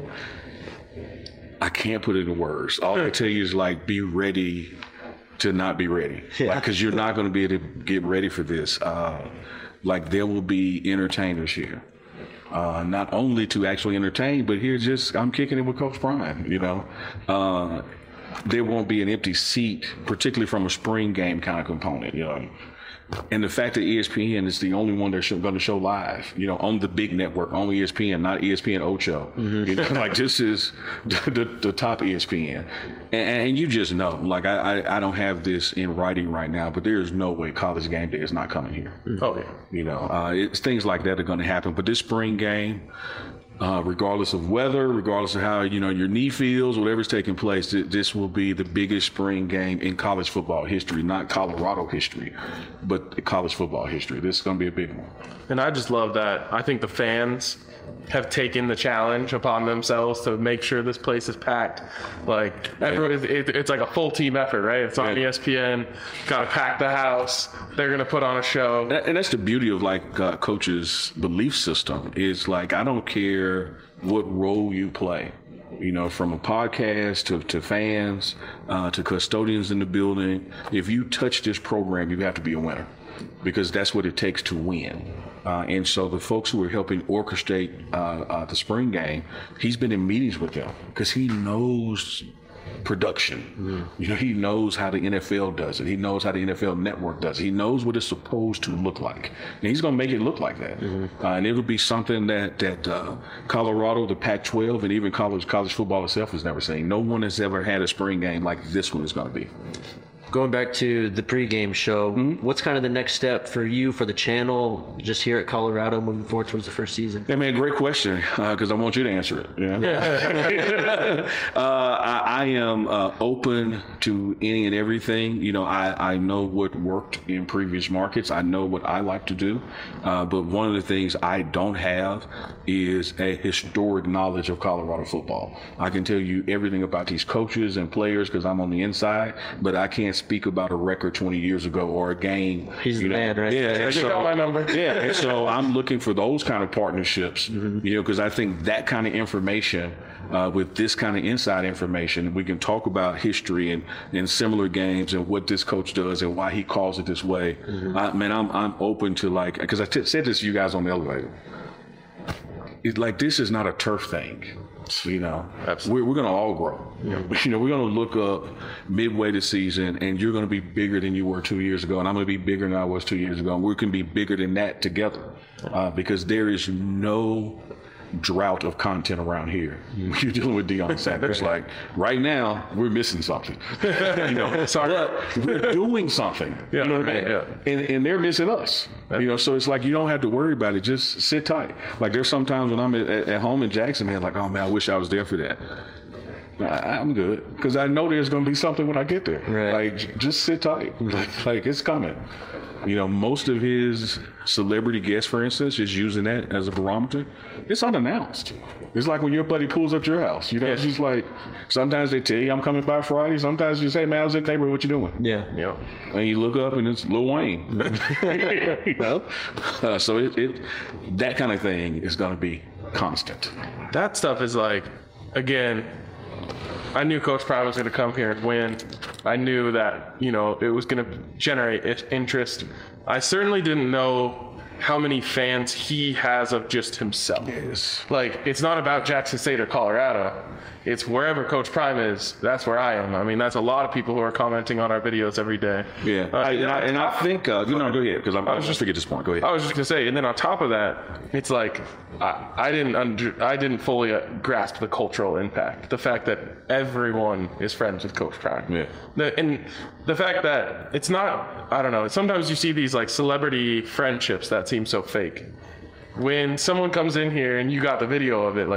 I can't put it in words. All I can tell you is like, be ready to not be ready. Yeah. Like, cause you're not going to be able to get ready for this. Uh, like there will be entertainers here. Uh, not only to actually entertain, but here just, I'm kicking it with Coach Prime, you know. Uh, there won't be an empty seat, particularly from a spring game kind of component, you know. And the fact that E S P N is the only one that's going to show live, you know, on the big network, on E S P N, not E S P N Ocho. Mm-hmm. You know, like this is the, the, the top E S P N. And, and you just know, like I, I, I don't have this in writing right now, but there is no way College Game Day is not coming here. Mm-hmm. Oh, yeah. You know, uh, it's things like that are going to happen. But this spring game, Uh, regardless of weather, regardless of how, you know, your knee feels, whatever's taking place, th- this will be the biggest spring game in college football history, not Colorado history, but college football history. This is going to be a big one. And I just love that. I think the fans have taken the challenge upon themselves to make sure this place is packed. Like, everyone, it, it's like a full team effort, right? It's on E S P N, got to pack the house. They're going to put on a show. And that's the beauty of, like, uh, Coach's belief system is, like, I don't care what role you play. You know, from a podcast to, to fans, uh, to custodians in the building. If you touch this program, you have to be a winner because that's what it takes to win. Uh, and so the folks who are helping orchestrate uh, uh, the spring game, he's been in meetings with them because he knows production. Mm. You know, he knows how the N F L does it. He knows how the N F L Network does it. He knows what it's supposed to look like. And he's going to make it look like that. Mm-hmm. Uh, and it'll be something that, that uh, Colorado, the Pac twelve, and even college, college football itself has never seen. No one has ever had a spring game like this one is going to be. Going back to the pregame show, mm-hmm. what's kind of the next step for you, for the channel, just here at Colorado, moving forward towards the first season? Yeah, man, great question, because uh, I want you to answer it. Yeah. yeah. uh, I, I am uh, open to any and everything. You know, I, I know what worked in previous markets. I know what I like to do. Uh, but one of the things I don't have is a historic knowledge of Colorado football. I can tell you everything about these coaches and players because I'm on the inside, but I can't speak about a record twenty years ago or a game. He's the know. man, right? Yeah, and you so, got my number. Yeah, and so I'm looking for those kind of partnerships, mm-hmm. you know, because I think that kind of information, uh, with this kind of inside information, we can talk about history and, and similar games and what this coach does and why he calls it this way. Mm-hmm. I, man, I'm I'm open to like, because I t- said this to you guys on the elevator. It's like, this is not a turf thing. You know, Absolutely. we're, we're going to all grow. Yeah. You know, we're going to look up midway the season, and you're going to be bigger than you were two years ago, and I'm going to be bigger than I was two years ago, and we can be bigger than that together, uh, because there is no drought of content around here. You're dealing with Deion Sanders. Like, right now, we're missing something. you know, sorry, but we're doing something. Yeah, you know what I right, mean? yeah. And, and they're missing us. You know, so it's like you don't have to worry about it. Just sit tight. Like, there's sometimes when I'm at, at home in Jackson, man, like, oh man, I wish I was there for that. I, I'm good because I know there's going to be something when I get there. Right. Like, just sit tight. Like, like it's coming. You know, most of his celebrity guests, for instance, is using that as a barometer. It's unannounced. It's like when your buddy pulls up to your house. You know, it's just like, sometimes they tell you, I'm coming by Friday. Sometimes you say, man, I was in the neighborhood. What you doing? Yeah. Yeah. And you look up and it's Lil Wayne. you know? Uh, so it, it that kind of thing is going to be constant. That stuff is like, again, I knew Coach Prime was going to come here and win. I knew that, you know, it was going to generate interest. I certainly didn't know how many fans he has of just himself. Yes. Like, it's not about Jackson State or Colorado. It's wherever Coach Prime is, that's where I am. I mean, that's a lot of people who are commenting on our videos every day. Yeah. Uh, I, and, I, and I think, uh, you know, go ahead, because I was just to get this point. Go ahead. I was just going to say, and then on top of that, it's like, I, I didn't under, I didn't fully uh, grasp the cultural impact. The fact that everyone is friends with Coach Prime. Yeah. The, and the fact that it's not, I don't know, sometimes you see these like celebrity friendships that seem so fake. When someone comes in here and you got the video of it, like,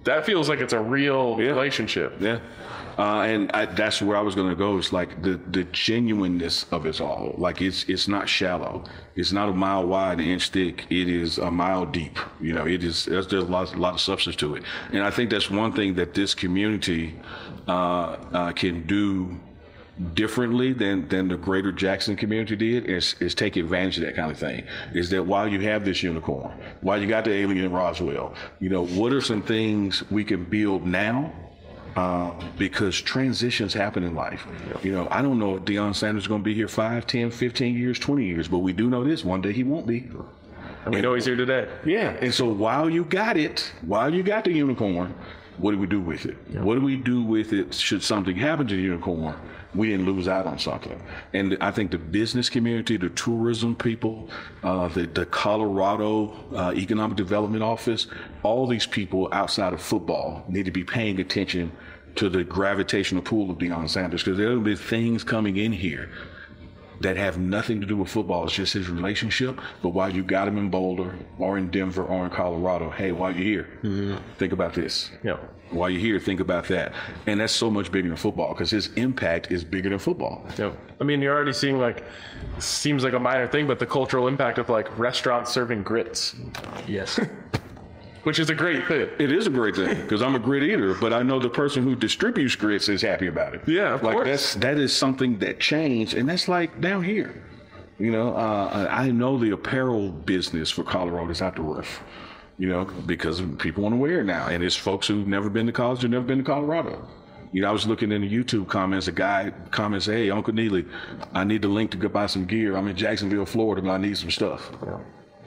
that feels like it's a real Yeah. relationship. Yeah. Uh, and I, that's where I was going to go. It's like the, the genuineness of it all. Like it's it's not shallow. It's not a mile wide, an inch thick. It is a mile deep. You know, it is. There's, there's a lot, a lot of substance to it. And I think that's one thing that this community uh, uh, can do differently than than the greater Jackson community did is, is take advantage of that kind of thing. Is that while you have this unicorn, while you got the alien in Roswell, you know, what are some things we can build now? Uh, because transitions happen in life. You know, I don't know if Deion Sanders is going to be here five, ten, fifteen years, twenty years, but we do know this, one day he won't be. And we know he's here today. Yeah, and so while you got it, while you got the unicorn, what do we do with it? Yeah. What do we do with it should something happen to the unicorn? We didn't lose out on something. And I think the business community, the tourism people, uh, the, the Colorado uh, Economic Development Office, all these people outside of football need to be paying attention to the gravitational pull of Deion Sanders, because there will be things coming in here that have nothing to do with football. It's just his relationship. But while you got him in Boulder or in Denver or in Colorado, hey, while you're here, mm-hmm. think about this. Yeah. While you're here, think about that. And that's so much bigger than football because his impact is bigger than football. Yeah. I mean, you're already seeing, like, seems like a minor thing, but the cultural impact of, like, restaurants serving grits. Yes. Which is a great thing. It is a great thing because I'm a grit eater, but I know the person who distributes grits is happy about it. Yeah, of like course. That's, that is something that changed, and that's like down here. You know, uh, I know the apparel business for Colorado is out the roof, you know, because people want to wear it now. And it's folks who've never been to college or never been to Colorado. You know, I was looking in the YouTube comments, a guy comments, hey, Uncle Neely, I need the link to go buy some gear. I'm in Jacksonville, Florida, but I need some stuff. Yeah.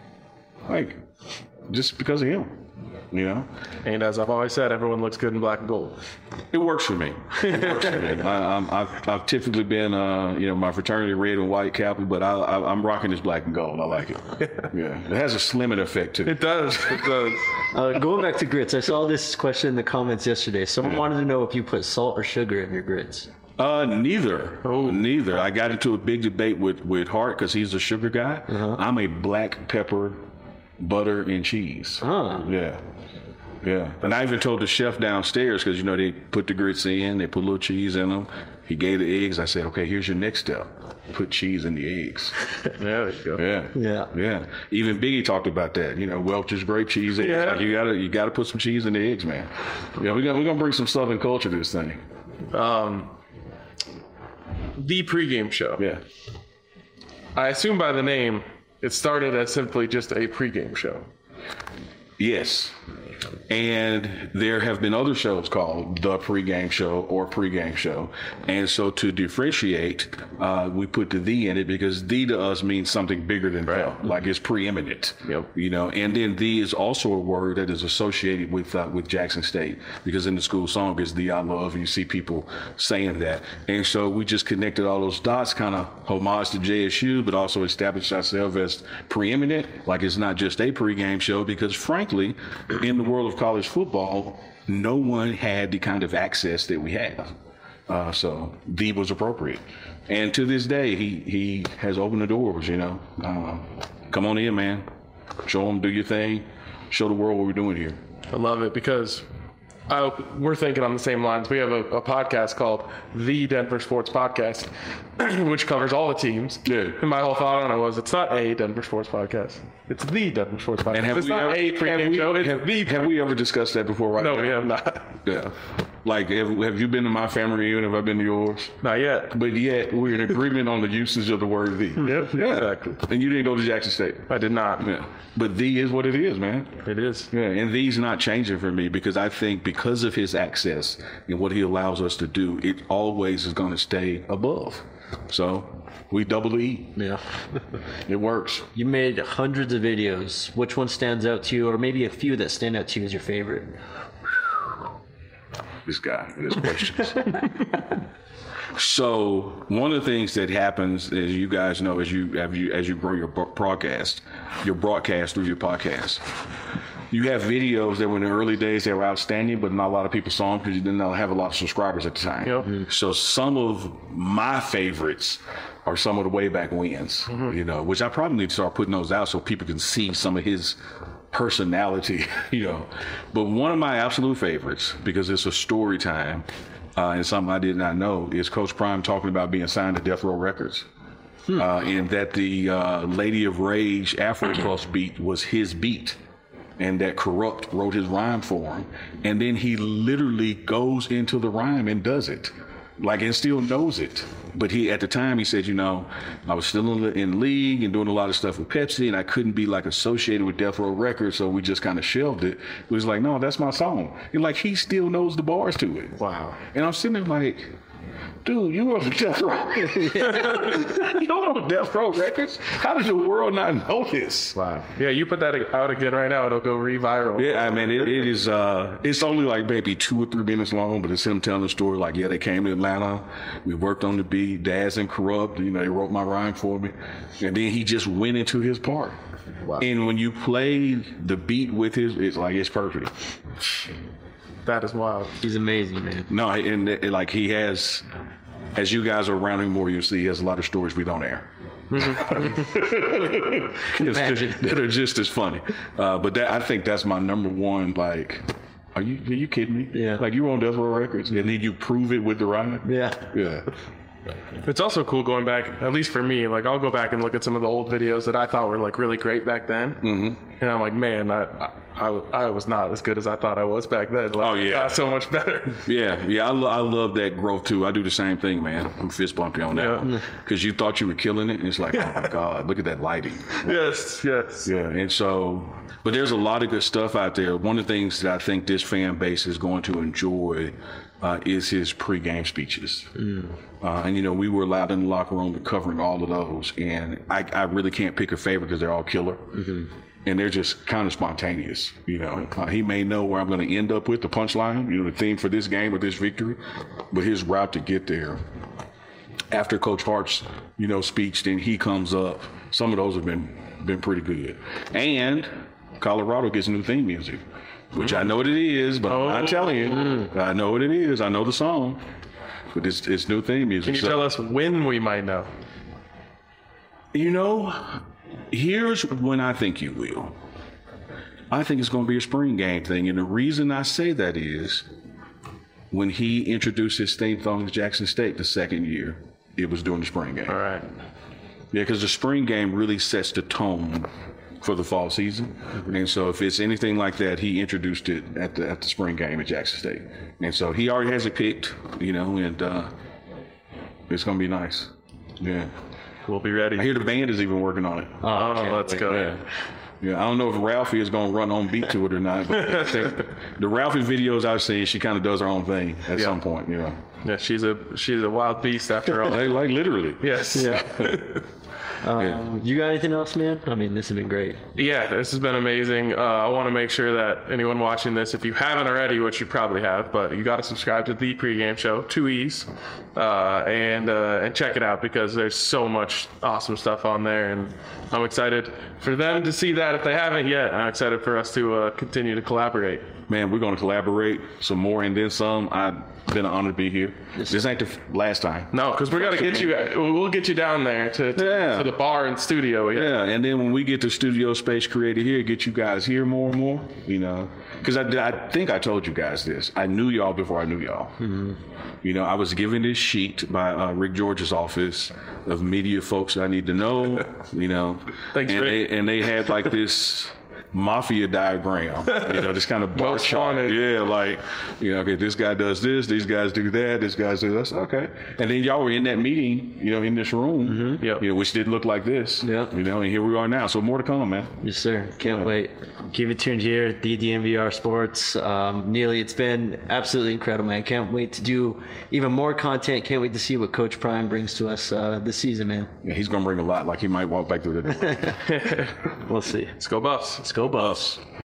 Like, just because of him. You know, and as I've always said, everyone looks good in black and gold. It works for me. It works for me. I, I'm, I've, I've typically been, uh, you know, my fraternity red and white Kappa, but I, I, I'm rocking this black and gold. I like it. Yeah, it has a slimming effect to it. It does. It does. Uh, going back to grits, I saw this question in the comments yesterday. Someone yeah. wanted to know if you put salt or sugar in your grits. Uh, neither. Oh, neither. I got into a big debate with with Hart because he's a sugar guy. Uh-huh. I'm a black pepper, butter, and cheese. Huh. Yeah. Yeah, and I even told the chef downstairs because, you know, they put the grits in, they put a little cheese in them. He gave the eggs. I said, okay, here's your next step. Put cheese in the eggs. There you go. Yeah. Yeah. Yeah. Even Biggie talked about that. You know, Welch's grape cheese eggs. Yeah. Like you gotta you gotta put some cheese in the eggs, man. Yeah, we're gonna we're gonna bring some Southern culture to this thing. Um the pregame show. Yeah. I assume by the name, it started as simply just a pregame show. Yes. And there have been other shows called The Pregame Show or Pregame Show. And so to differentiate, uh, we put the the in it because the to us means something bigger than the, like it's preeminent. Yep. You know, and then the is also a word that is associated with uh, with Jackson State because in the school song is the I love, and you see people saying that. And so we just connected all those dots, kind of homage to J S U, but also established ourselves as preeminent. Like it's not just a pregame show because frankly, in the world of college football, no one had the kind of access that we have. Uh, so the was appropriate. And to this day, he, he has opened the doors, you know. Uh, come on in, man. Show them, do your thing. Show the world what we're doing here. I love it because I, we're thinking on the same lines. We have a, a podcast called The Denver Sports Podcast, which covers all the teams. Yeah. And my whole thought on it was, it's not a Denver Sports Podcast. It's The Denver Sports Podcast. And have it's we not ever, a pregame show. It's have, the have we ever discussed that before? Right no, now? we have not. Yeah. Like, have, have you been to my family reunion? Have I been to yours? Not yet. But yet, we're in agreement on the usage of the word the. Yep, yeah. exactly. And you didn't go to Jackson State. I did not. Yeah. But the is what it is, man. It is. Yeah, and the's not changing for me because I think because of his access and what he allows us to do, it always is going to stay above. So we double E. Yeah. It works. You made hundreds of videos. Which one stands out to you, or maybe a few that stand out to you as your favorite? This guy, his questions. So one of the things that happens, as you guys know, as you as you as you grow your broadcast, your broadcast through your podcast, you have videos that were in the early days they were outstanding, but not a lot of people saw them because you didn't have a lot of subscribers at the time. Yep. Mm-hmm. So some of my favorites are some of the way back wins, mm-hmm. you know, which I probably need to start putting those out so people can see some of his personality, you know. But one of my absolute favorites, because it's a story time, uh, and something I did not know, is Coach Prime talking about being signed to Death Row Records. Hmm. Uh, and that the uh, Lady of Rage Afro Pulse beat was his beat. And that Corrupt wrote his rhyme for him. And then he literally goes into the rhyme and does it. Like, and still knows it. But he, at the time, he said, you know, I was still in, in league and doing a lot of stuff with Pepsi, and I couldn't be like associated with Death Row Records, so we just kind of shelved it. It was like, no, that's my song. And like, he still knows the bars to it. Wow. And I'm sitting there like, dude, you were on Death Row. You don't know Death Row Records? How does the world not know this? Wow. Yeah, you put that out again right now, it'll go re-viral. Yeah, I mean, it, it is, uh, it's only like maybe two or three minutes long, but it's him telling the story like, yeah, they came to Atlanta, we worked on the beat, Daz and Corrupt, you know, they wrote my rhyme for me, and then he just went into his part. Wow. And when you play the beat with his, it's like, it's perfect. That is wild. He's amazing, man. No, and it, like he has, as you guys are around him more, you'll see he has a lot of stories we don't air. It's just, that are just as funny. Uh, but that, I think that's my number one, like, are you are you kidding me? Yeah. Like, you were on Death Row Records, and then you prove it with the rhyme? Yeah. Yeah. It's also cool going back, at least for me, like I'll go back and look at some of the old videos that I thought were like really great back then. Mm-hmm. And I'm like, man, I, I, I was not as good as I thought I was back then. Like, oh, yeah. I got so much better. Yeah, yeah, I, lo- I love that growth too. I do the same thing, man. I'm fist bumping on that Yeah. one. Because you thought you were killing it, and it's like, oh my God, look at that lighting. Yes, yes. Yeah, and so, but there's a lot of good stuff out there. One of the things that I think this fan base is going to enjoy uh, is his pregame speeches. Mm. Uh, and, you know, we were allowed in the locker room to covering all of those. And I, I really can't pick a favorite because they're all killer. Mm-hmm. And they're just kind of spontaneous, you know. Uh, he may know where I'm going to end up with the punchline, you know, the theme for this game or this victory. But his route to get there, after Coach Hart's, you know, speech, then he comes up. Some of those have been, been pretty good. And Colorado gets new theme music, which I know what it is, but Oh. I'm not telling you. I know what it is. I know the song, but it's, it's new theme music. Can you So- tell us when we might know? You know, here's when I think you will. I think it's going to be a spring game thing. And the reason I say that is when he introduced his theme song to Jackson State the second year, it was during the spring game. All right. Yeah, because the spring game really sets the tone for the fall season. And so if it's anything like that, he introduced it at the at the spring game at Jackson State. And so he already has it picked, you know, and uh, it's going to be nice. Yeah. We'll be ready. I hear the band is even working on it. Oh, let's go. Yeah. Yeah, I don't know if Ralphie is going to run on beat to it or not, but I think the Ralphie videos I've seen, she kind of does her own thing at Yeah. some point, you know. Yeah, she's a she's a wild beast after all. Like, like literally. Yes. Yeah. Yeah. Um, you got anything else, man? I mean, this has been great. Yeah, this has been amazing. Uh, I want to make sure that anyone watching this, if you haven't already, which you probably have, but you got to subscribe to the pregame show, two E's, uh, and uh, and check it out because there's so much awesome stuff on there, and I'm excited for them to see that if they haven't yet. I'm excited for us to uh, continue to collaborate. Man, we're going to collaborate some more and then some. I've been an honor to be here. This ain't the f- last time. No, because we're gonna get you. We'll get you down there to to, Yeah. to the bar and studio. Yeah. Yeah, and then when we get the studio space created here, get you guys here more and more, you know. Because I, I think I told you guys this. I knew y'all before I knew y'all. Mm-hmm. You know, I was given this sheet by uh, Rick George's office of media folks that I need to know, you know. Thanks, and Rick. they, and they had like this mafia diagram, you know, this kind of bar Most chart. wanted. Yeah, like, you know, okay, this guy does this, these guys do that, this guy do this. Okay. And then y'all were in that meeting, you know, in this room, Mm-hmm. Yep. you know, which didn't look like this. Yep. You know, and here we are now. So more to come, man. Yes, sir. Can't wait. Keep it tuned here at the D M V R Sports. Um, Neely, it's been absolutely incredible, man. Can't wait to do even more content. Can't wait to see what Coach Prime brings to us uh, this season, man. Yeah, he's going to bring a lot. Like he might walk back through the door. We'll see. Let's go Buffs. Let's go, Buffs.